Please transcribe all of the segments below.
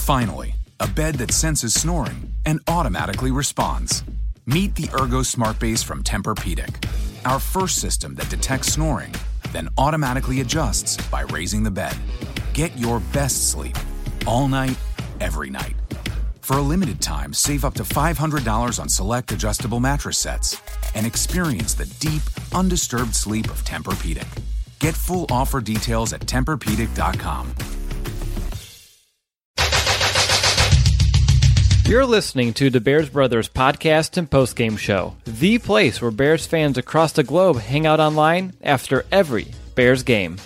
Finally, a bed that senses snoring and automatically responds. Meet the Ergo Smart Base from Tempur-Pedic, our first system that detects snoring, then automatically adjusts by raising the bed. Get your best sleep all night, every night. For a limited time, save up to $500 on select adjustable mattress sets and experience the deep, undisturbed sleep of Tempur-Pedic. Get full offer details at TempurPedic.com. You're listening to the Bears Brothers podcast and postgame show, the place where Bears fans across the globe hang out online after every Bears game.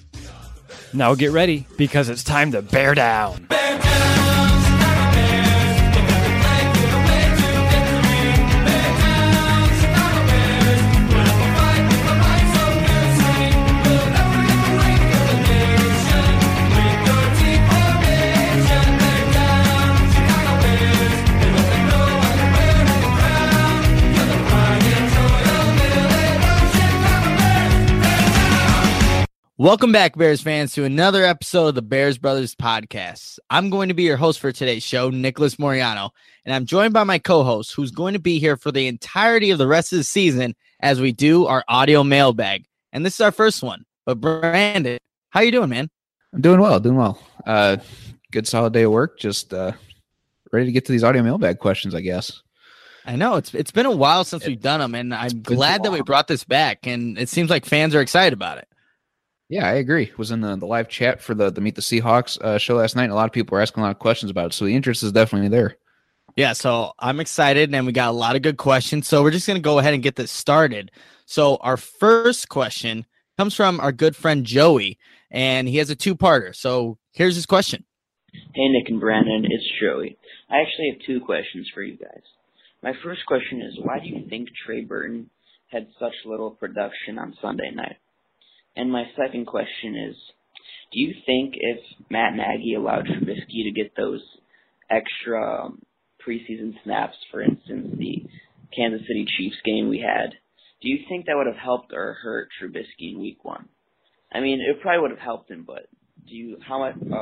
Now get ready, because it's time to bear down. Bear down, Chicago Bears. If every play to the way to victory. Bear down, Chicago Bears. Put up a fight with a mind so piercing. We'll never get the rank of the nation. With your team formation. Bear down, Chicago Bears. They let them know how to wear the crown. You're the pride and joy of Illinois. Chicago Bears. Bear down. Welcome back, Bears fans, to another episode of the Bears Brothers podcast. I'm going to be your host for today's show, Nicholas Moriano, and I'm joined by my co-host, who's going to be here for the entirety of the rest of the season as we do our audio mailbag. And this is our first one. But Brandon, how you doing, man? I'm doing well. Good solid day of work. Just ready to get to these audio mailbag questions, I guess. I know it's been a while since we've done them, and I'm glad that we brought this back, and it seems like fans are excited about it. Yeah, I agree. Was in the live chat for the Meet the Seahawks show last night, and a lot of people were asking a lot of questions about it, so the interest is definitely there. Yeah, so I'm excited, and we got a lot of good questions, so we're just going to go ahead and get this started. So our first question comes from our good friend Joey, and he has a two-parter. So here's his question. Hey, Nick and Brandon, it's Joey. I actually have two questions for you guys. My first question is, why do you think Trey Burton had such little production on Sunday night? And my second question is, do you think if Matt Nagy allowed Trubisky to get those extra preseason snaps, for instance, the Kansas City Chiefs game we had, do you think that would have helped or hurt Trubisky in week one? I mean, it probably would have helped him, but how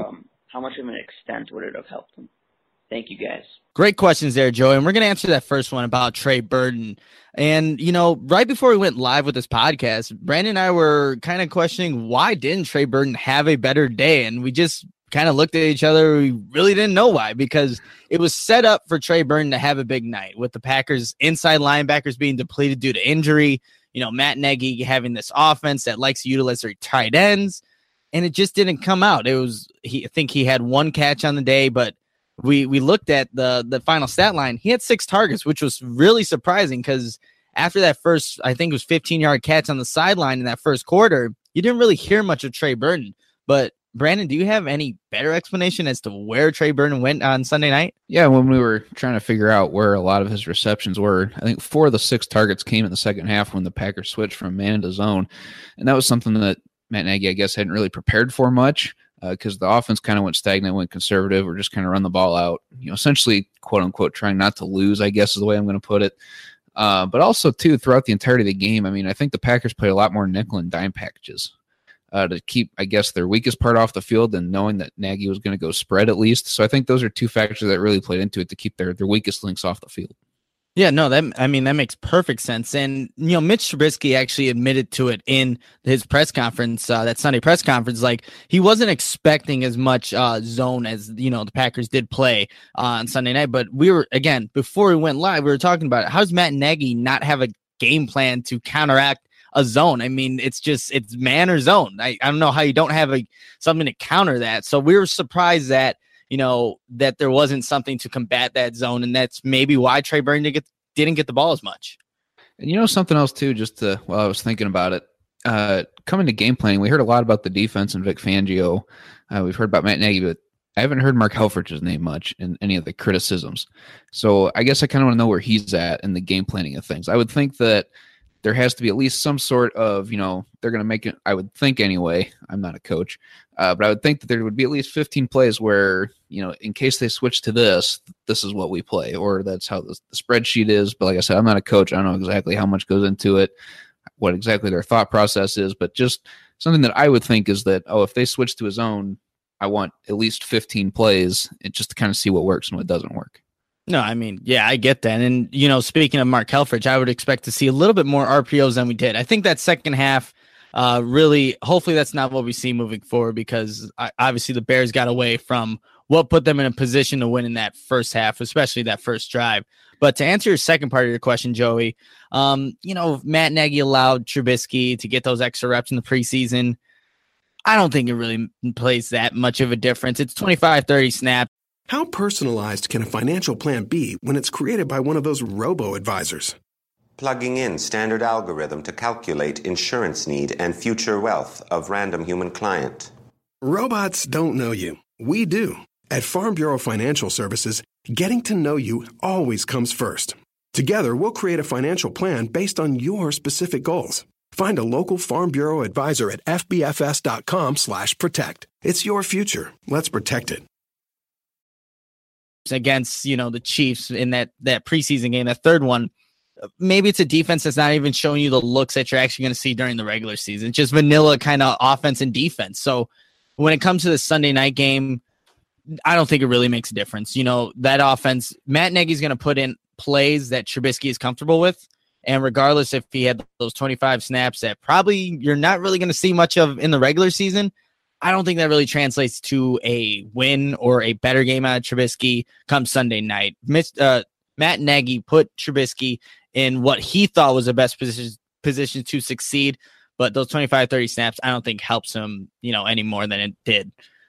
much of an extent would it have helped him? Thank you, guys. Great questions there, Joey. And we're going to answer that first one about Trey Burton. And, right before we went live with this podcast, Brandon and I were kind of questioning, why didn't Trey Burton have a better day? And we just kind of looked at each other. We really didn't know why, because it was set up for Trey Burton to have a big night with the Packers inside linebackers being depleted due to injury. Matt Nagy having this offense that likes to utilize their tight ends. And it just didn't come out. I think he had one catch on the day, but we looked at the final stat line. He had 6 targets, which was really surprising, because after that first, I think it was 15-yard catch on the sideline in that first quarter, you didn't really hear much of Trey Burton. But Brandon, do you have any better explanation as to where Trey Burton went on Sunday night? Yeah, when we were trying to figure out where a lot of his receptions were, I think 4 of the 6 targets came in the second half when the Packers switched from man to zone. And that was something that Matt Nagy, I guess, hadn't really prepared for much, because the offense kind of went stagnant, went conservative, or just kind of run the ball out, essentially, quote unquote, trying not to lose, I guess is the way I'm going to put it. But also, too, throughout the entirety of the game, I mean, I think the Packers played a lot more nickel and dime packages to keep, I guess, their weakest part off the field, and knowing that Nagy was going to go spread at least. So I think those are 2 factors that really played into it to keep their weakest links off the field. Yeah, no, that makes perfect sense. And, Mitch Trubisky actually admitted to it in his press conference, that Sunday press conference. Like, he wasn't expecting as much zone as, the Packers did play on Sunday night. But we were, again, before we went live, we were talking about it. How does Matt Nagy not have a game plan to counteract a zone? I mean, it's man or zone. I don't know how you don't have something to counter that. So we were surprised that, that there wasn't something to combat that zone. And that's maybe why Trey Burton didn't get the ball as much. And something else too, while I was thinking about it, coming to game planning, we heard a lot about the defense and Vic Fangio. We've heard about Matt Nagy, but I haven't heard Mark Helfrich's name much in any of the criticisms. So I guess I kind of want to know where he's at in the game planning of things. I would think that there has to be at least some sort of, they're going to make it, I would think anyway, I'm not a coach, but I would think that there would be at least 15 plays where, in case they switch to this is what we play, or that's how the spreadsheet is. But like I said, I'm not a coach. I don't know exactly how much goes into it, what exactly their thought process is, but just something that I would think is that, if they switch to a zone, I want at least 15 plays just to kind of see what works and what doesn't work. No, I mean, yeah, I get that. And, speaking of Mark Helfrich, I would expect to see a little bit more RPOs than we did. I think that second half, really, hopefully that's not what we see moving forward, because obviously the Bears got away from what put them in a position to win in that first half, especially that first drive. But to answer your second part of your question, Joey, Matt Nagy allowed Trubisky to get those extra reps in the preseason. I don't think it really plays that much of a difference. It's 25, 30 snaps. How personalized can a financial plan be when it's created by one of those robo-advisors? Plugging in standard algorithm to calculate insurance need and future wealth of random human client. Robots don't know you. We do. At Farm Bureau Financial Services, getting to know you always comes first. Together, we'll create a financial plan based on your specific goals. Find a local Farm Bureau advisor at fbfs.com/protect. It's your future. Let's protect it. Against, the Chiefs in that preseason game, that third one, maybe it's a defense that's not even showing you the looks that you're actually going to see during the regular season. It's just vanilla kind of offense and defense. So when it comes to the Sunday night game, I don't think it really makes a difference. That offense, Matt Nagy's going to put in plays that Trubisky is comfortable with. And regardless if he had those 25 snaps that probably you're not really going to see much of in the regular season, I don't think that really translates to a win or a better game out of Trubisky come Sunday night. Matt Nagy put Trubisky in what he thought was the best position to succeed, but those 25, 30 snaps, I don't think helps him, any more than it did.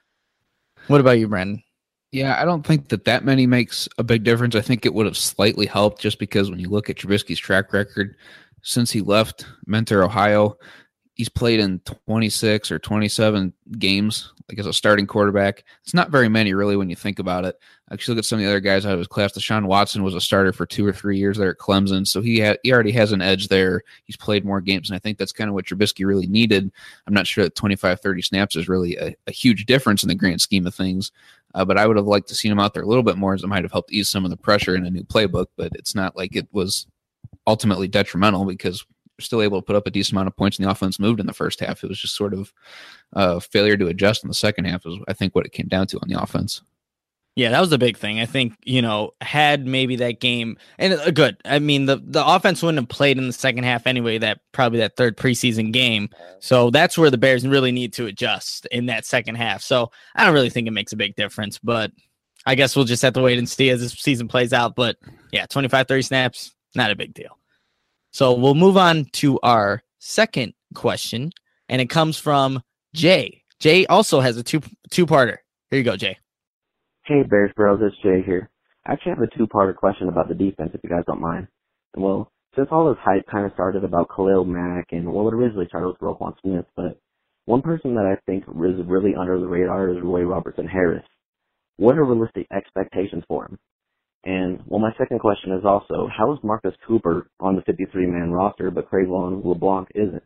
What about you, Brandon? Yeah, I don't think that many makes a big difference. I think it would have slightly helped just because when you look at Trubisky's track record since he left Mentor, Ohio, he's played in 26 or 27 games, like as a starting quarterback. It's not very many, really, when you think about it. Actually, look at some of the other guys out of his class. Deshaun Watson was a starter for 2 or 3 years there at Clemson, so he already has an edge there. He's played more games, and I think that's kind of what Trubisky really needed. I'm not sure that 25, 30 snaps is really a huge difference in the grand scheme of things, but I would have liked to see him out there a little bit more, as it might have helped ease some of the pressure in a new playbook, but it's not like it was ultimately detrimental because still able to put up a decent amount of points, and the offense moved in the first half. It was just sort of failure to adjust in the second half is, I think, what it came down to on the offense. Yeah, that was the big thing. I think, had maybe that game, and good. I mean, the offense wouldn't have played in the second half anyway, that third preseason game. So that's where the Bears really need to adjust in that second half. So I don't really think it makes a big difference, but I guess we'll just have to wait and see as this season plays out. But yeah, 25, 30 snaps, not a big deal. So we'll move on to our second question, and it comes from Jay. Jay also has a two-parter. Here you go, Jay. Hey, Bears Bros, it's Jay here. I actually have a two-parter question about the defense, if you guys don't mind. Well, since all this hype kind of started about Khalil Mack, and it originally started with Roquan Smith, but one person that I think is really under the radar is Roy Robertson Harris. What are realistic expectations for him? And, my second question is also, how is Marcus Cooper on the 53-man roster, but Cre'Von LeBlanc isn't?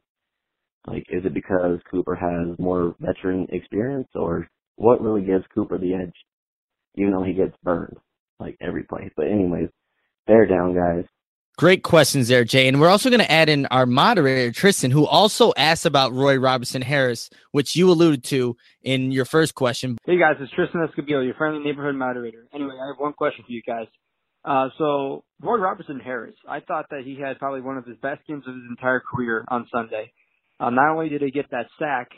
Is it because Cooper has more veteran experience, or what really gives Cooper the edge? Even though he gets burned, every play. But anyways, bear down, guys. Great questions there, Jay. And we're also going to add in our moderator, Tristan, who also asked about Roy Robertson Harris, which you alluded to in your first question. Hey, guys, it's Tristan Escobedo, your friendly neighborhood moderator. Anyway, I have one question for you guys. So Roy Robertson Harris, I thought that he had probably one of his best games of his entire career on Sunday. Not only did he get that sack,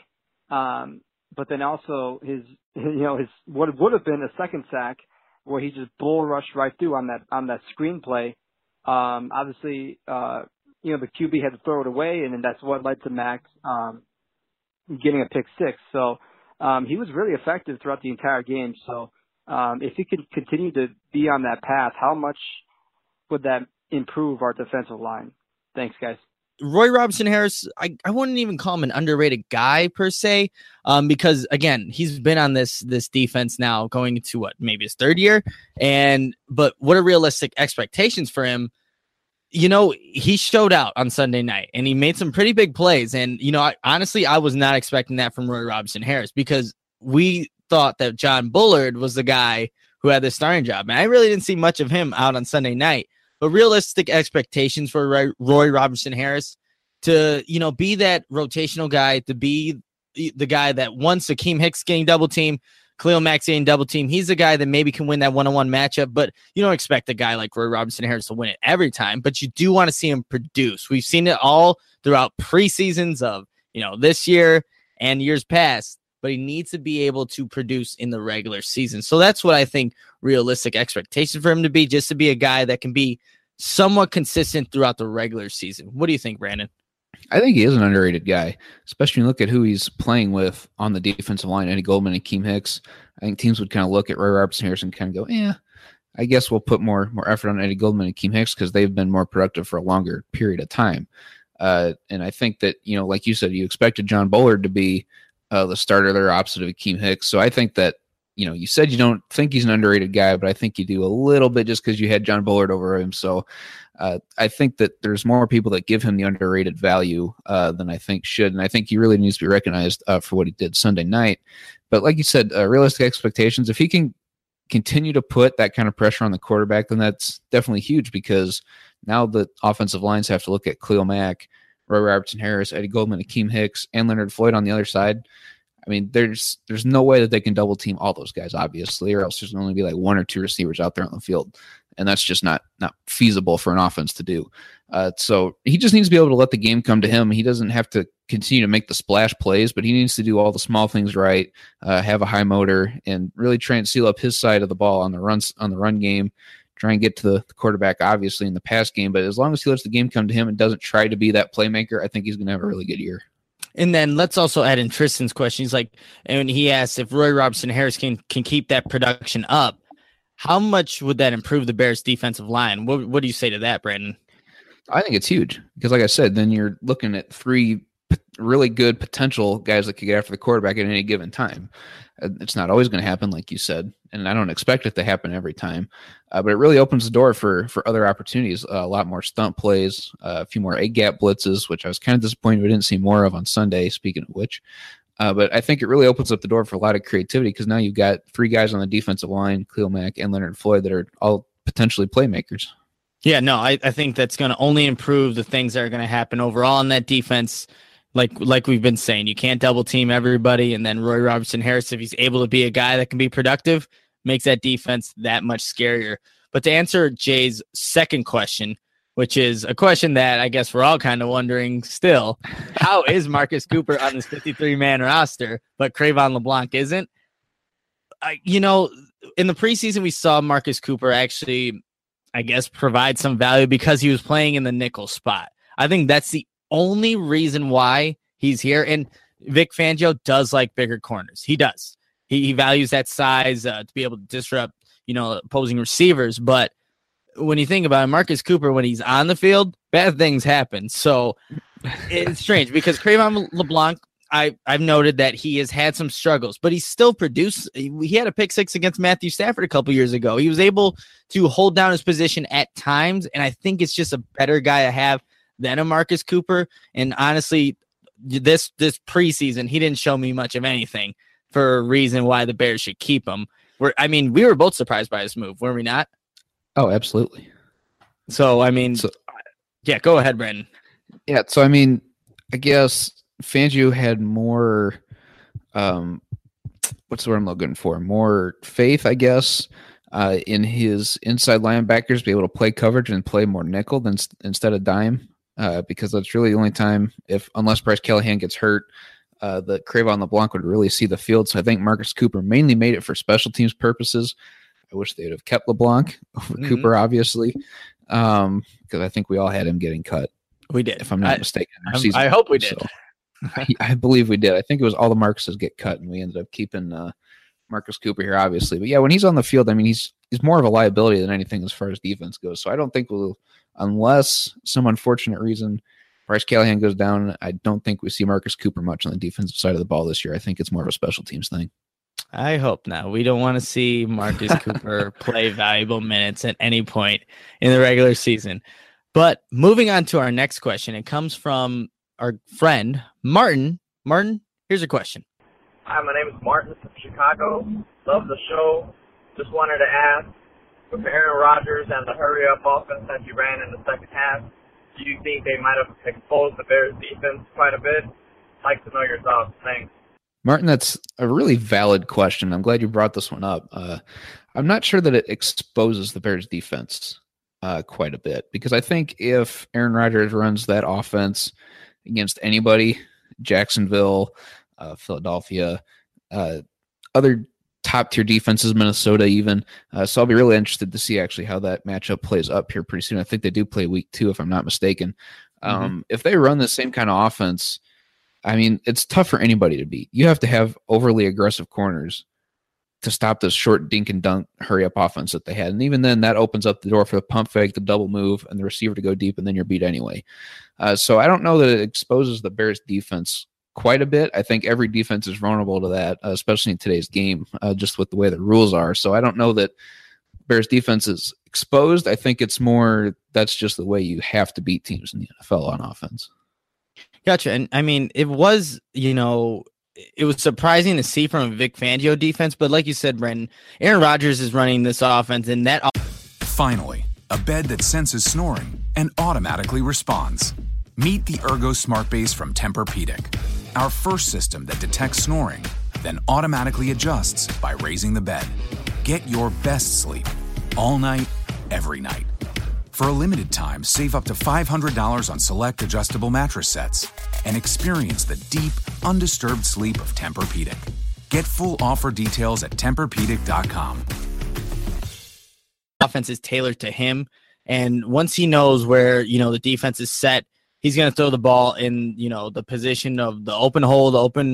but then also his what would have been a second sack where he just bull rushed right through on that screenplay. Obviously, the QB had to throw it away, and then that's what led to Max getting a pick six. So he was really effective throughout the entire game. So if he could continue to be on that path, how much would that improve our defensive line? Thanks, guys. Roy Robertson Harris, I wouldn't even call him an underrated guy per se, because again, he's been on this defense now going into maybe his third year, but what are realistic expectations for him? He showed out on Sunday night and he made some pretty big plays, and honestly, I was not expecting that from Roy Robertson Harris because we thought that John Bullard was the guy who had the starting job, and I really didn't see much of him out on Sunday night. But realistic expectations for Roy Robertson Harris to, be that rotational guy, to be the guy that once Akeem Hicks getting double team, Khalil Mack's getting double team. He's a guy that maybe can win that one-on-one matchup, but you don't expect a guy like Roy Robertson Harris to win it every time, but you do want to see him produce. We've seen it all throughout preseasons of, this year and years past, but he needs to be able to produce in the regular season. So that's what I think realistic expectation for him to be, just to be a guy that can be somewhat consistent throughout the regular season. What do you think, Brandon? I think he is an underrated guy, especially when you look at who he's playing with on the defensive line, Eddie Goldman and Keem Hicks. I think teams would kind of look at Roy Robertson Harris and kind of go, yeah, I guess we'll put more effort on Eddie Goldman and Keem Hicks because they've been more productive for a longer period of time. And I think that, like you said, you expected John Bullard to be the starter there opposite of Keem Hicks. So I think that, you said you don't think he's an underrated guy, but I think you do a little bit just because you had John Bullard over him. So I think that there's more people that give him the underrated value than I think should. And I think he really needs to be recognized for what he did Sunday night. But like you said, realistic expectations, if he can continue to put that kind of pressure on the quarterback, then that's definitely huge because now the offensive lines have to look at Khalil Mack, Roy Robertson Harris, Eddie Goldman, Akeem Hicks, and Leonard Floyd on the other side. I mean, there's no way that they can double team all those guys, obviously, or else there's going to only be like one or two receivers out there on the field. And that's just not feasible for an offense to do. So he just needs to be able to let the game come to him. He doesn't have to continue to make the splash plays, but he needs to do all the small things right, have a high motor, and really try and seal up his side of the ball on the run game, try and get to the quarterback, obviously, in the pass game. But as long as he lets the game come to him and doesn't try to be that playmaker, I think he's going to have a really good year. And then let's also add in Tristan's question. He's like, and he asked if Roy Robertson Harris can keep that production up, how much would that improve the Bears' defensive line? What do you say to that, Brandon? I think it's huge because, like I said, then you're looking at three really good potential guys that could get after the quarterback at any given time. It's not always going to happen, like you said, and I don't expect it to happen every time. But it really opens the door for other opportunities, a lot more stunt plays, a few more A-gap blitzes, which I was kind of disappointed we didn't see more of on Sunday, speaking of which. But I think it really opens up the door for a lot of creativity because now you've got three guys on the defensive line, Khalil Mack and Leonard Floyd, that are all potentially playmakers. Yeah, no, I think that's going to only improve the things that are going to happen overall in that defense. Like we've been saying, you can't double team everybody, and then Roy Robertson Harris, if he's able to be a guy that can be productive, makes that defense that much scarier. But to answer Jay's second question, which is a question that I guess we're all kind of wondering still, how is Marcus Cooper on this 53-man roster, but Cre'Von LeBlanc isn't? In the preseason, we saw Marcus Cooper actually, I guess, provide some value because he was playing in the nickel spot. I think that's the only reason why he's here. And Vic Fangio does like bigger corners. He does. He values that size to be able to disrupt, opposing receivers. But when you think about it, Marcus Cooper, when he's on the field, bad things happen. So it's strange because Cre'Von LeBlanc, I've noted that he has had some struggles, but he's still produced. He had a pick six against Matthew Stafford a couple years ago. He was able to hold down his position at times, and I think it's just a better guy to have than a Marcus Cooper. And honestly, this preseason, he didn't show me much of anything for a reason why the Bears should keep him. We were both surprised by his move, were we not? Oh, absolutely. So, yeah, go ahead, Brandon. Yeah, so, I guess Fangio had more, what's the word I'm looking for? More faith, I guess, in his inside linebackers, be able to play coverage and play more nickel instead of dime. Because that's really the only time, unless Bryce Callahan gets hurt, that Cre'Von LeBlanc would really see the field. So I think Marcus Cooper mainly made it for special teams purposes. I wish they would have kept LeBlanc over Cooper, obviously, because I think we all had him getting cut. We did, if I'm not mistaken. I hope we did. So I believe we did. I think it was all the Marcuses get cut, and we ended up keeping Marcus Cooper here, obviously. But yeah, when he's on the field, he's more of a liability than anything as far as defense goes. So I don't think unless some unfortunate reason Bryce Callahan goes down, I don't think we see Marcus Cooper much on the defensive side of the ball this year. I think it's more of a special teams thing. I hope not. We don't want to see Marcus Cooper play valuable minutes at any point in the regular season. But moving on to our next question, it comes from our friend Martin. Martin, here's a question. Hi, my name is Martin from Chicago. Love the show. Just wanted to ask, with Aaron Rodgers and the hurry-up offense that you ran in the second half, do you think they might have exposed the Bears defense quite a bit? I'd like to know your thoughts. Thanks. Martin, that's a really valid question. I'm glad you brought this one up. I'm not sure that it exposes the Bears defense quite a bit, because I think if Aaron Rodgers runs that offense against anybody, Jacksonville, Philadelphia, other top tier defenses, Minnesota even. So I'll be really interested to see actually how that matchup plays up here pretty soon. I think they do play week 2, if I'm not mistaken. If they run the same kind of offense, I mean, it's tough for anybody to beat. You have to have overly aggressive corners to stop this short dink and dunk hurry up offense that they had. And even then, that opens up the door for the pump fake, the double move, and the receiver to go deep, and then you're beat anyway. So I don't know that it exposes the Bears defense quite a bit. I think every defense is vulnerable to that, especially in today's game, just with the way the rules are. So I don't know that Bears defense is exposed. I think it's more that's just the way you have to beat teams in the NFL on offense. Gotcha. And I mean, it was, it was surprising to see from a Vic Fangio defense, but like you said, Brendan, Aaron Rodgers is running this offense, and that. Finally, a bed that senses snoring and automatically responds. Meet the Ergo Smart Base from Tempur-Pedic, our first system that detects snoring, then automatically adjusts by raising the bed. Get your best sleep all night, every night. For a limited time, save up to $500 on select adjustable mattress sets and experience the deep, undisturbed sleep of Tempur-Pedic. Get full offer details at TempurPedic.com. Offense is tailored to him, and once he knows where, the defense is set, he's going to throw the ball in, the position of the open hole, the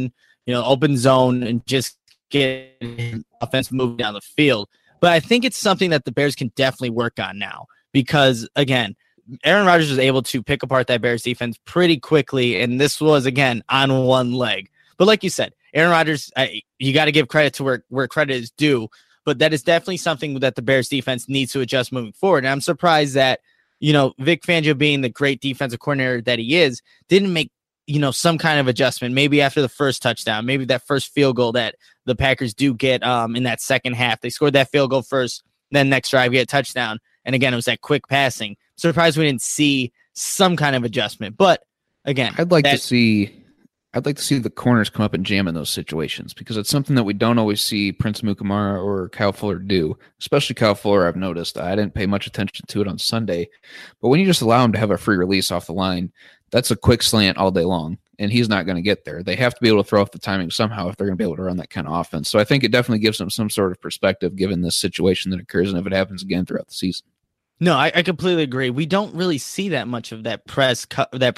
open zone, and just get offense moving down the field. But I think it's something that the Bears can definitely work on now. Because, again, Aaron Rodgers was able to pick apart that Bears defense pretty quickly, and this was, again, on one leg. But like you said, Aaron Rodgers, you got to give credit to where credit is due, but that is definitely something that the Bears defense needs to adjust moving forward. And I'm surprised that, Vic Fangio, being the great defensive coordinator that he is, didn't make, some kind of adjustment, maybe after the first touchdown, maybe that first field goal that the Packers do get in that second half. They scored that field goal first, then next drive, get a touchdown. And again, it was that quick passing. Surprised we didn't see some kind of adjustment. But again, I'd like to see the corners come up and jam in those situations, because it's something that we don't always see Prince Mukamara or Kyle Fuller do. Especially Kyle Fuller, I've noticed. I didn't pay much attention to it on Sunday, but when you just allow him to have a free release off the line, that's a quick slant all day long, and he's not going to get there. They have to be able to throw off the timing somehow if they're going to be able to run that kind of offense. So I think it definitely gives them some sort of perspective given this situation that occurs, and if it happens again throughout the season. No, I completely agree. We don't really see that much of that press,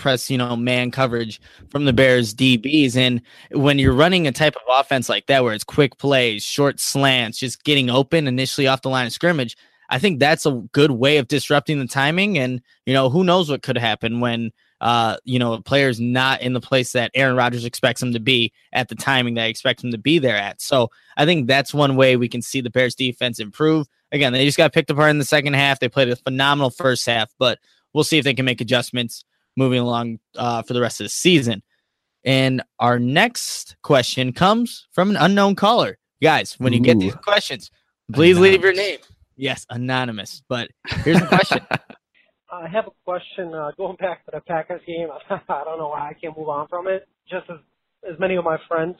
man coverage from the Bears DBs. And when you're running a type of offense like that, where it's quick plays, short slants, just getting open initially off the line of scrimmage, I think that's a good way of disrupting the timing. And, who knows what could happen when, a player's not in the place that Aaron Rodgers expects him to be at the timing that he expects him to be there at. So I think that's one way we can see the Bears defense improve. Again, they just got picked apart in the second half. They played a phenomenal first half, but we'll see if they can make adjustments moving along for the rest of the season. And our next question comes from an unknown caller. Guys, when you get these questions, please leave your name. Yes, anonymous. But here's the question. I have a question going back to the Packers game. I don't know why I can't move on from it. Just as many of my friends,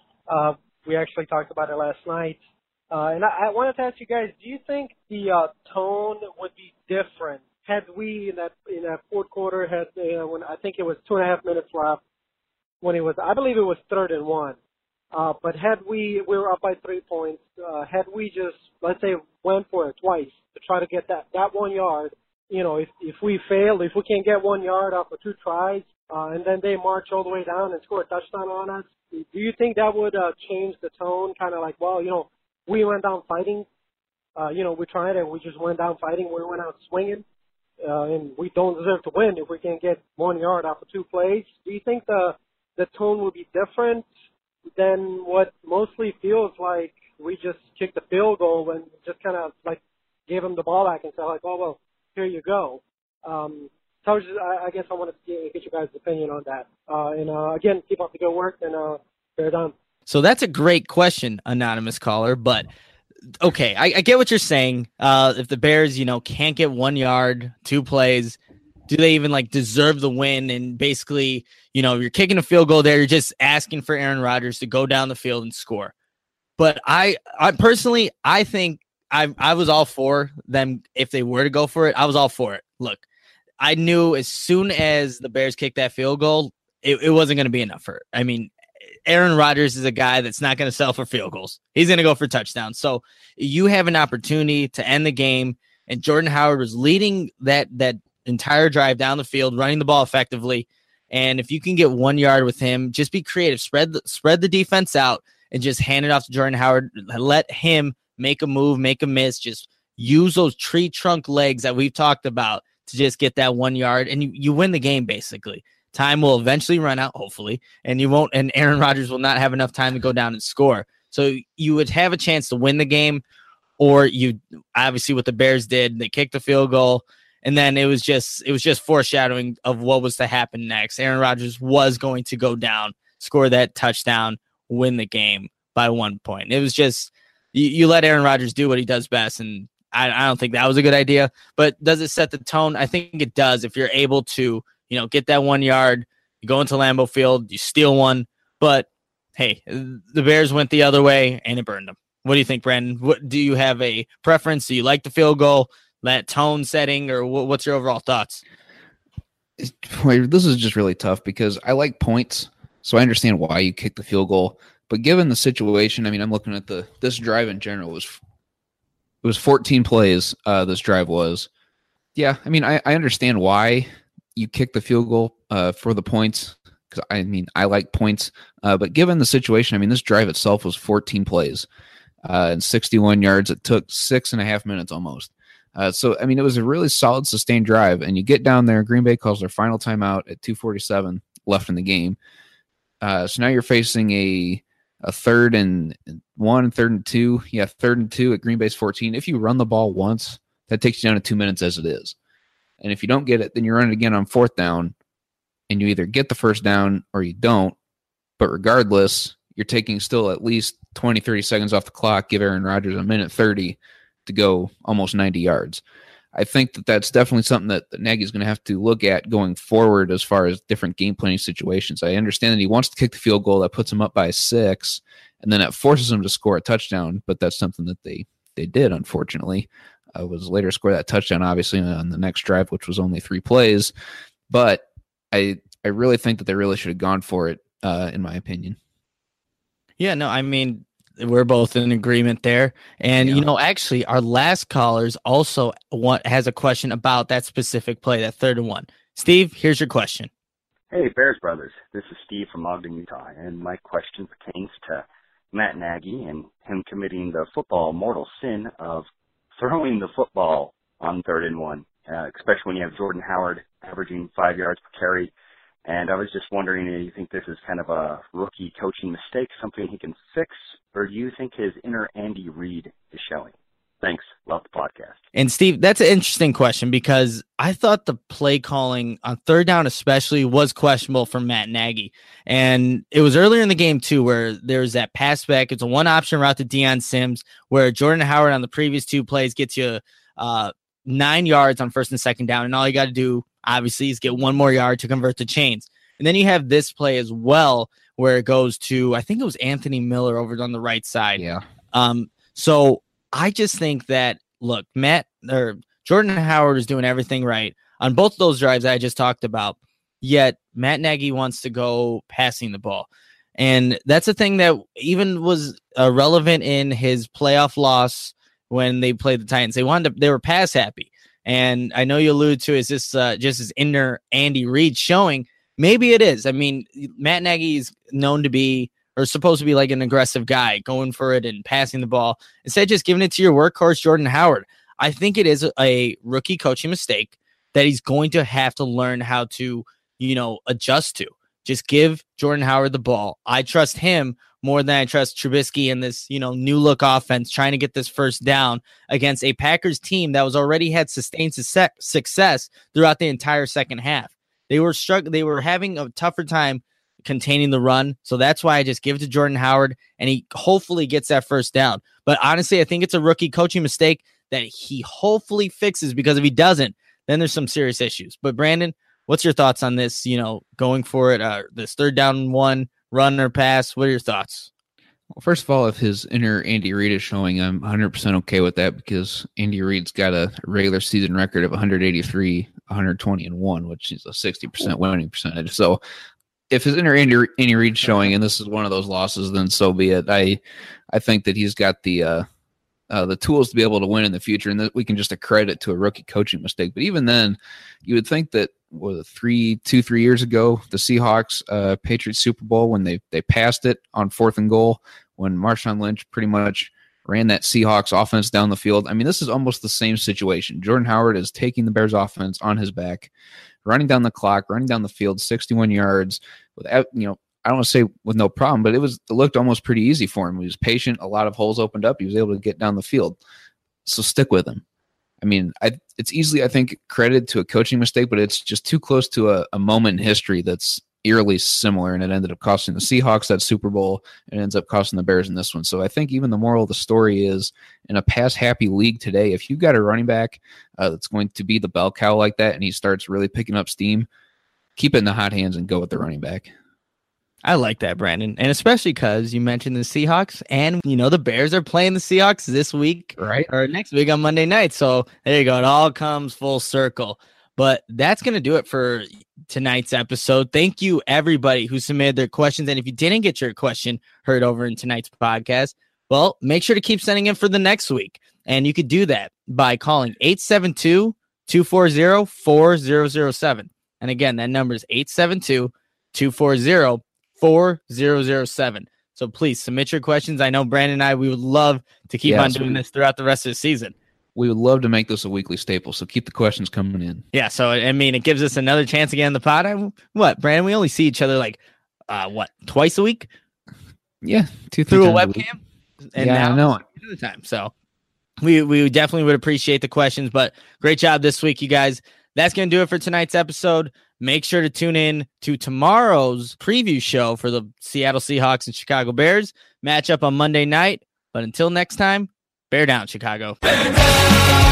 we actually talked about it last night. And I wanted to ask you guys, do you think the tone would be different had we in that fourth quarter when I think it was 2.5 minutes left, when I believe it was 3rd and 1. But had we were up by 3 points, had we just, let's say, went for it twice to try to get that 1 yard, if we fail, if we can't get 1 yard off of 2 tries, and then they march all the way down and score a touchdown on us, do you think that would change the tone? Kind of like, well, we went down fighting. We tried and we just went down fighting. We went out swinging, and we don't deserve to win if we can't get 1 yard off of 2 plays. Do you think the tone would be different than what mostly feels like we just kicked the field goal and just kind of like gave them the ball back and said like, oh, well, here you go. So I guess I wanted to get you guys' opinion on that. And again, keep up the good work, and fair done. So that's a great question, anonymous caller. But okay, I get what you're saying. If the Bears, can't get 1 yard, 2 plays, do they even like deserve the win? And basically, you're kicking a field goal there. You're just asking for Aaron Rodgers to go down the field and score. But I personally, I think I was all for them. If they were to go for it, I was all for it. Look, I knew as soon as the Bears kicked that field goal, it wasn't going to be enough for it. I mean, Aaron Rodgers is a guy that's not going to settle for field goals. He's going to go for touchdowns. So you have an opportunity to end the game, and Jordan Howard was leading that entire drive down the field, running the ball effectively. And if you can get 1 yard with him, just be creative, spread the defense out, and just hand it off to Jordan Howard. Let him make a move, make a miss. Just use those tree trunk legs that we've talked about to just get that 1 yard, and you win the game basically. Time will eventually run out, hopefully, and Aaron Rodgers will not have enough time to go down and score. So you would have a chance to win the game, or you obviously what the Bears did, they kicked the field goal, and then it was just foreshadowing of what was to happen next. Aaron Rodgers was going to go down, score that touchdown, win the game by 1 point. It was just you let Aaron Rodgers do what he does best, and I don't think that was a good idea. But does it set the tone? I think it does. If you're able to get that 1 yard, you go into Lambeau Field, you steal one. But, hey, the Bears went the other way, and it burned them. What do you think, Brandon? Do you have a preference? Do you like the field goal, that tone setting, or what's your overall thoughts? This is just really tough because I like points, so I understand why you kick the field goal. But given the situation, I mean, I'm looking at this drive in general. It was 14 plays, this drive was. Yeah, I mean, I understand why you kick the field goal for the points, because I like points, but given the situation, I mean, this drive itself was 14 plays and 61 yards. It took 6.5 minutes almost. So I mean, it was a really solid, sustained drive, and you get down there. Green Bay calls their final timeout at 2:47 left in the game. So now you're facing a 3rd and 1, 3rd and 2. Yeah, 3rd and 2 at Green Bay's 14. If you run the ball once, that takes you down to 2 minutes as it is. And if you don't get it, then you run it again on 4th down, and you either get the first down or you don't. But regardless, you're taking still at least 20, 30 seconds off the clock, give Aaron Rodgers a minute 30 to go almost 90 yards. I think that's definitely something that Nagy's going to have to look at going forward as far as different game planning situations. I understand that he wants to kick the field goal that puts him up by 6, and then it forces him to score a touchdown, but that's something that they did, unfortunately. Was later score that touchdown, obviously, on the next drive, which was only 3 plays. But I really think that they really should have gone for it, in my opinion. Yeah, no, I mean, we're both in agreement there. And, actually, our last callers also has a question about that specific play, that 3rd and 1. Steve, here's your question. Hey, Bears Brothers. This is Steve from Ogden, Utah. And my question pertains to Matt Nagy and him committing the football mortal sin of throwing the football on 3rd and 1, especially when you have Jordan Howard averaging 5 yards per carry. And I was just wondering, do you think this is kind of a rookie coaching mistake, something he can fix, or do you think his inner Andy Reid is showing? Thanks. Love the podcast. And Steve, that's an interesting question because I thought the play calling on 3rd down especially was questionable for Matt Nagy. And it was earlier in the game too, where there's that pass back. It's a 1-option route to Deion Sims, where Jordan Howard on the previous 2 plays gets you 9 yards on 1st and 2nd down. And all you got to do, obviously, is get 1 more yard to convert the chains. And then you have this play as well, where it goes to, I think it was Anthony Miller over on the right side. Yeah. So I just think that, look, Jordan Howard is doing everything right on both those drives I just talked about, yet Matt Nagy wants to go passing the ball. And that's a thing that even was relevant in his playoff loss when they played the Titans. They were pass happy. And I know you alluded to, is this just his inner Andy Reid showing? Maybe it is. I mean, Matt Nagy is known to be, or supposed to be, like an aggressive guy, going for it and passing the ball instead of just giving it to your workhorse, Jordan Howard. I think it is a rookie coaching mistake that he's going to have to learn how to, adjust to. Just give Jordan Howard the ball. I trust him more than I trust Trubisky and this, new look offense trying to get this first down against a Packers team that was already had sustained success throughout the entire second half. They were struggling. They were having a tougher time containing the run. So that's why I just give it to Jordan Howard, and he hopefully gets that first down. But honestly, I think it's a rookie coaching mistake that he hopefully fixes, because if he doesn't, then there's some serious issues. But Brandon, what's your thoughts on this? Going for it, this 3rd down and 1 run or pass. What are your thoughts? Well, first of all, if his inner Andy Reid is showing, I'm 100% okay with that because Andy Reid's got a regular season record of 183, 120, and 1, which is a 60% winning percentage. So if his inner Andy Reid's showing, and this is one of those losses, then so be it. I think that he's got the tools to be able to win in the future, and that we can just accredit to a rookie coaching mistake. But even then, you would think that 3 years ago, the Seahawks Patriots Super Bowl, when they passed it on 4th and goal, when Marshawn Lynch pretty much ran that Seahawks offense down the field. I mean, this is almost the same situation. Jordan Howard is taking the Bears offense on his back, running down the clock, running down the field, 61 yards without, I don't want to say with no problem, but it looked almost pretty easy for him. He was patient. A lot of holes opened up. He was able to get down the field. So stick with him. I mean, it's easily, I think, credited to a coaching mistake, but it's just too close to a moment in history that's eerily similar, and it ended up costing the Seahawks that Super Bowl, and it ends up costing the Bears in this one. So I think even the moral of the story is, in a pass-happy league today, if you've got a running back that's going to be the bell cow like that, and he starts really picking up steam, keep it in the hot hands and go with the running back. I like that, Brandon. And especially because you mentioned the Seahawks, and the Bears are playing the Seahawks this week, right? Or next week on Monday night. So there you go. It all comes full circle. But that's going to do it for tonight's episode. Thank you, everybody who submitted their questions. And if you didn't get your question heard over in tonight's podcast, well, make sure to keep sending in for the next week. And you could do that by calling 872-240-4007. And again, that number is 872-240-4007. So please submit your questions. I know Brandon and I, we would love to keep on doing this throughout the rest of the season. We would love to make this a weekly staple, so keep the questions coming in. Yeah, so, I mean, it gives us another chance again in the pod. Brandon? We only see each other twice a week? Yeah, 2-3 through a times webcam? And yeah, I know it. Another time. So we definitely would appreciate the questions, but great job this week, you guys. That's going to do it for tonight's episode. Make sure to tune in to tomorrow's preview show for the Seattle Seahawks and Chicago Bears matchup on Monday night. But until next time, bear down, Chicago. Bear down.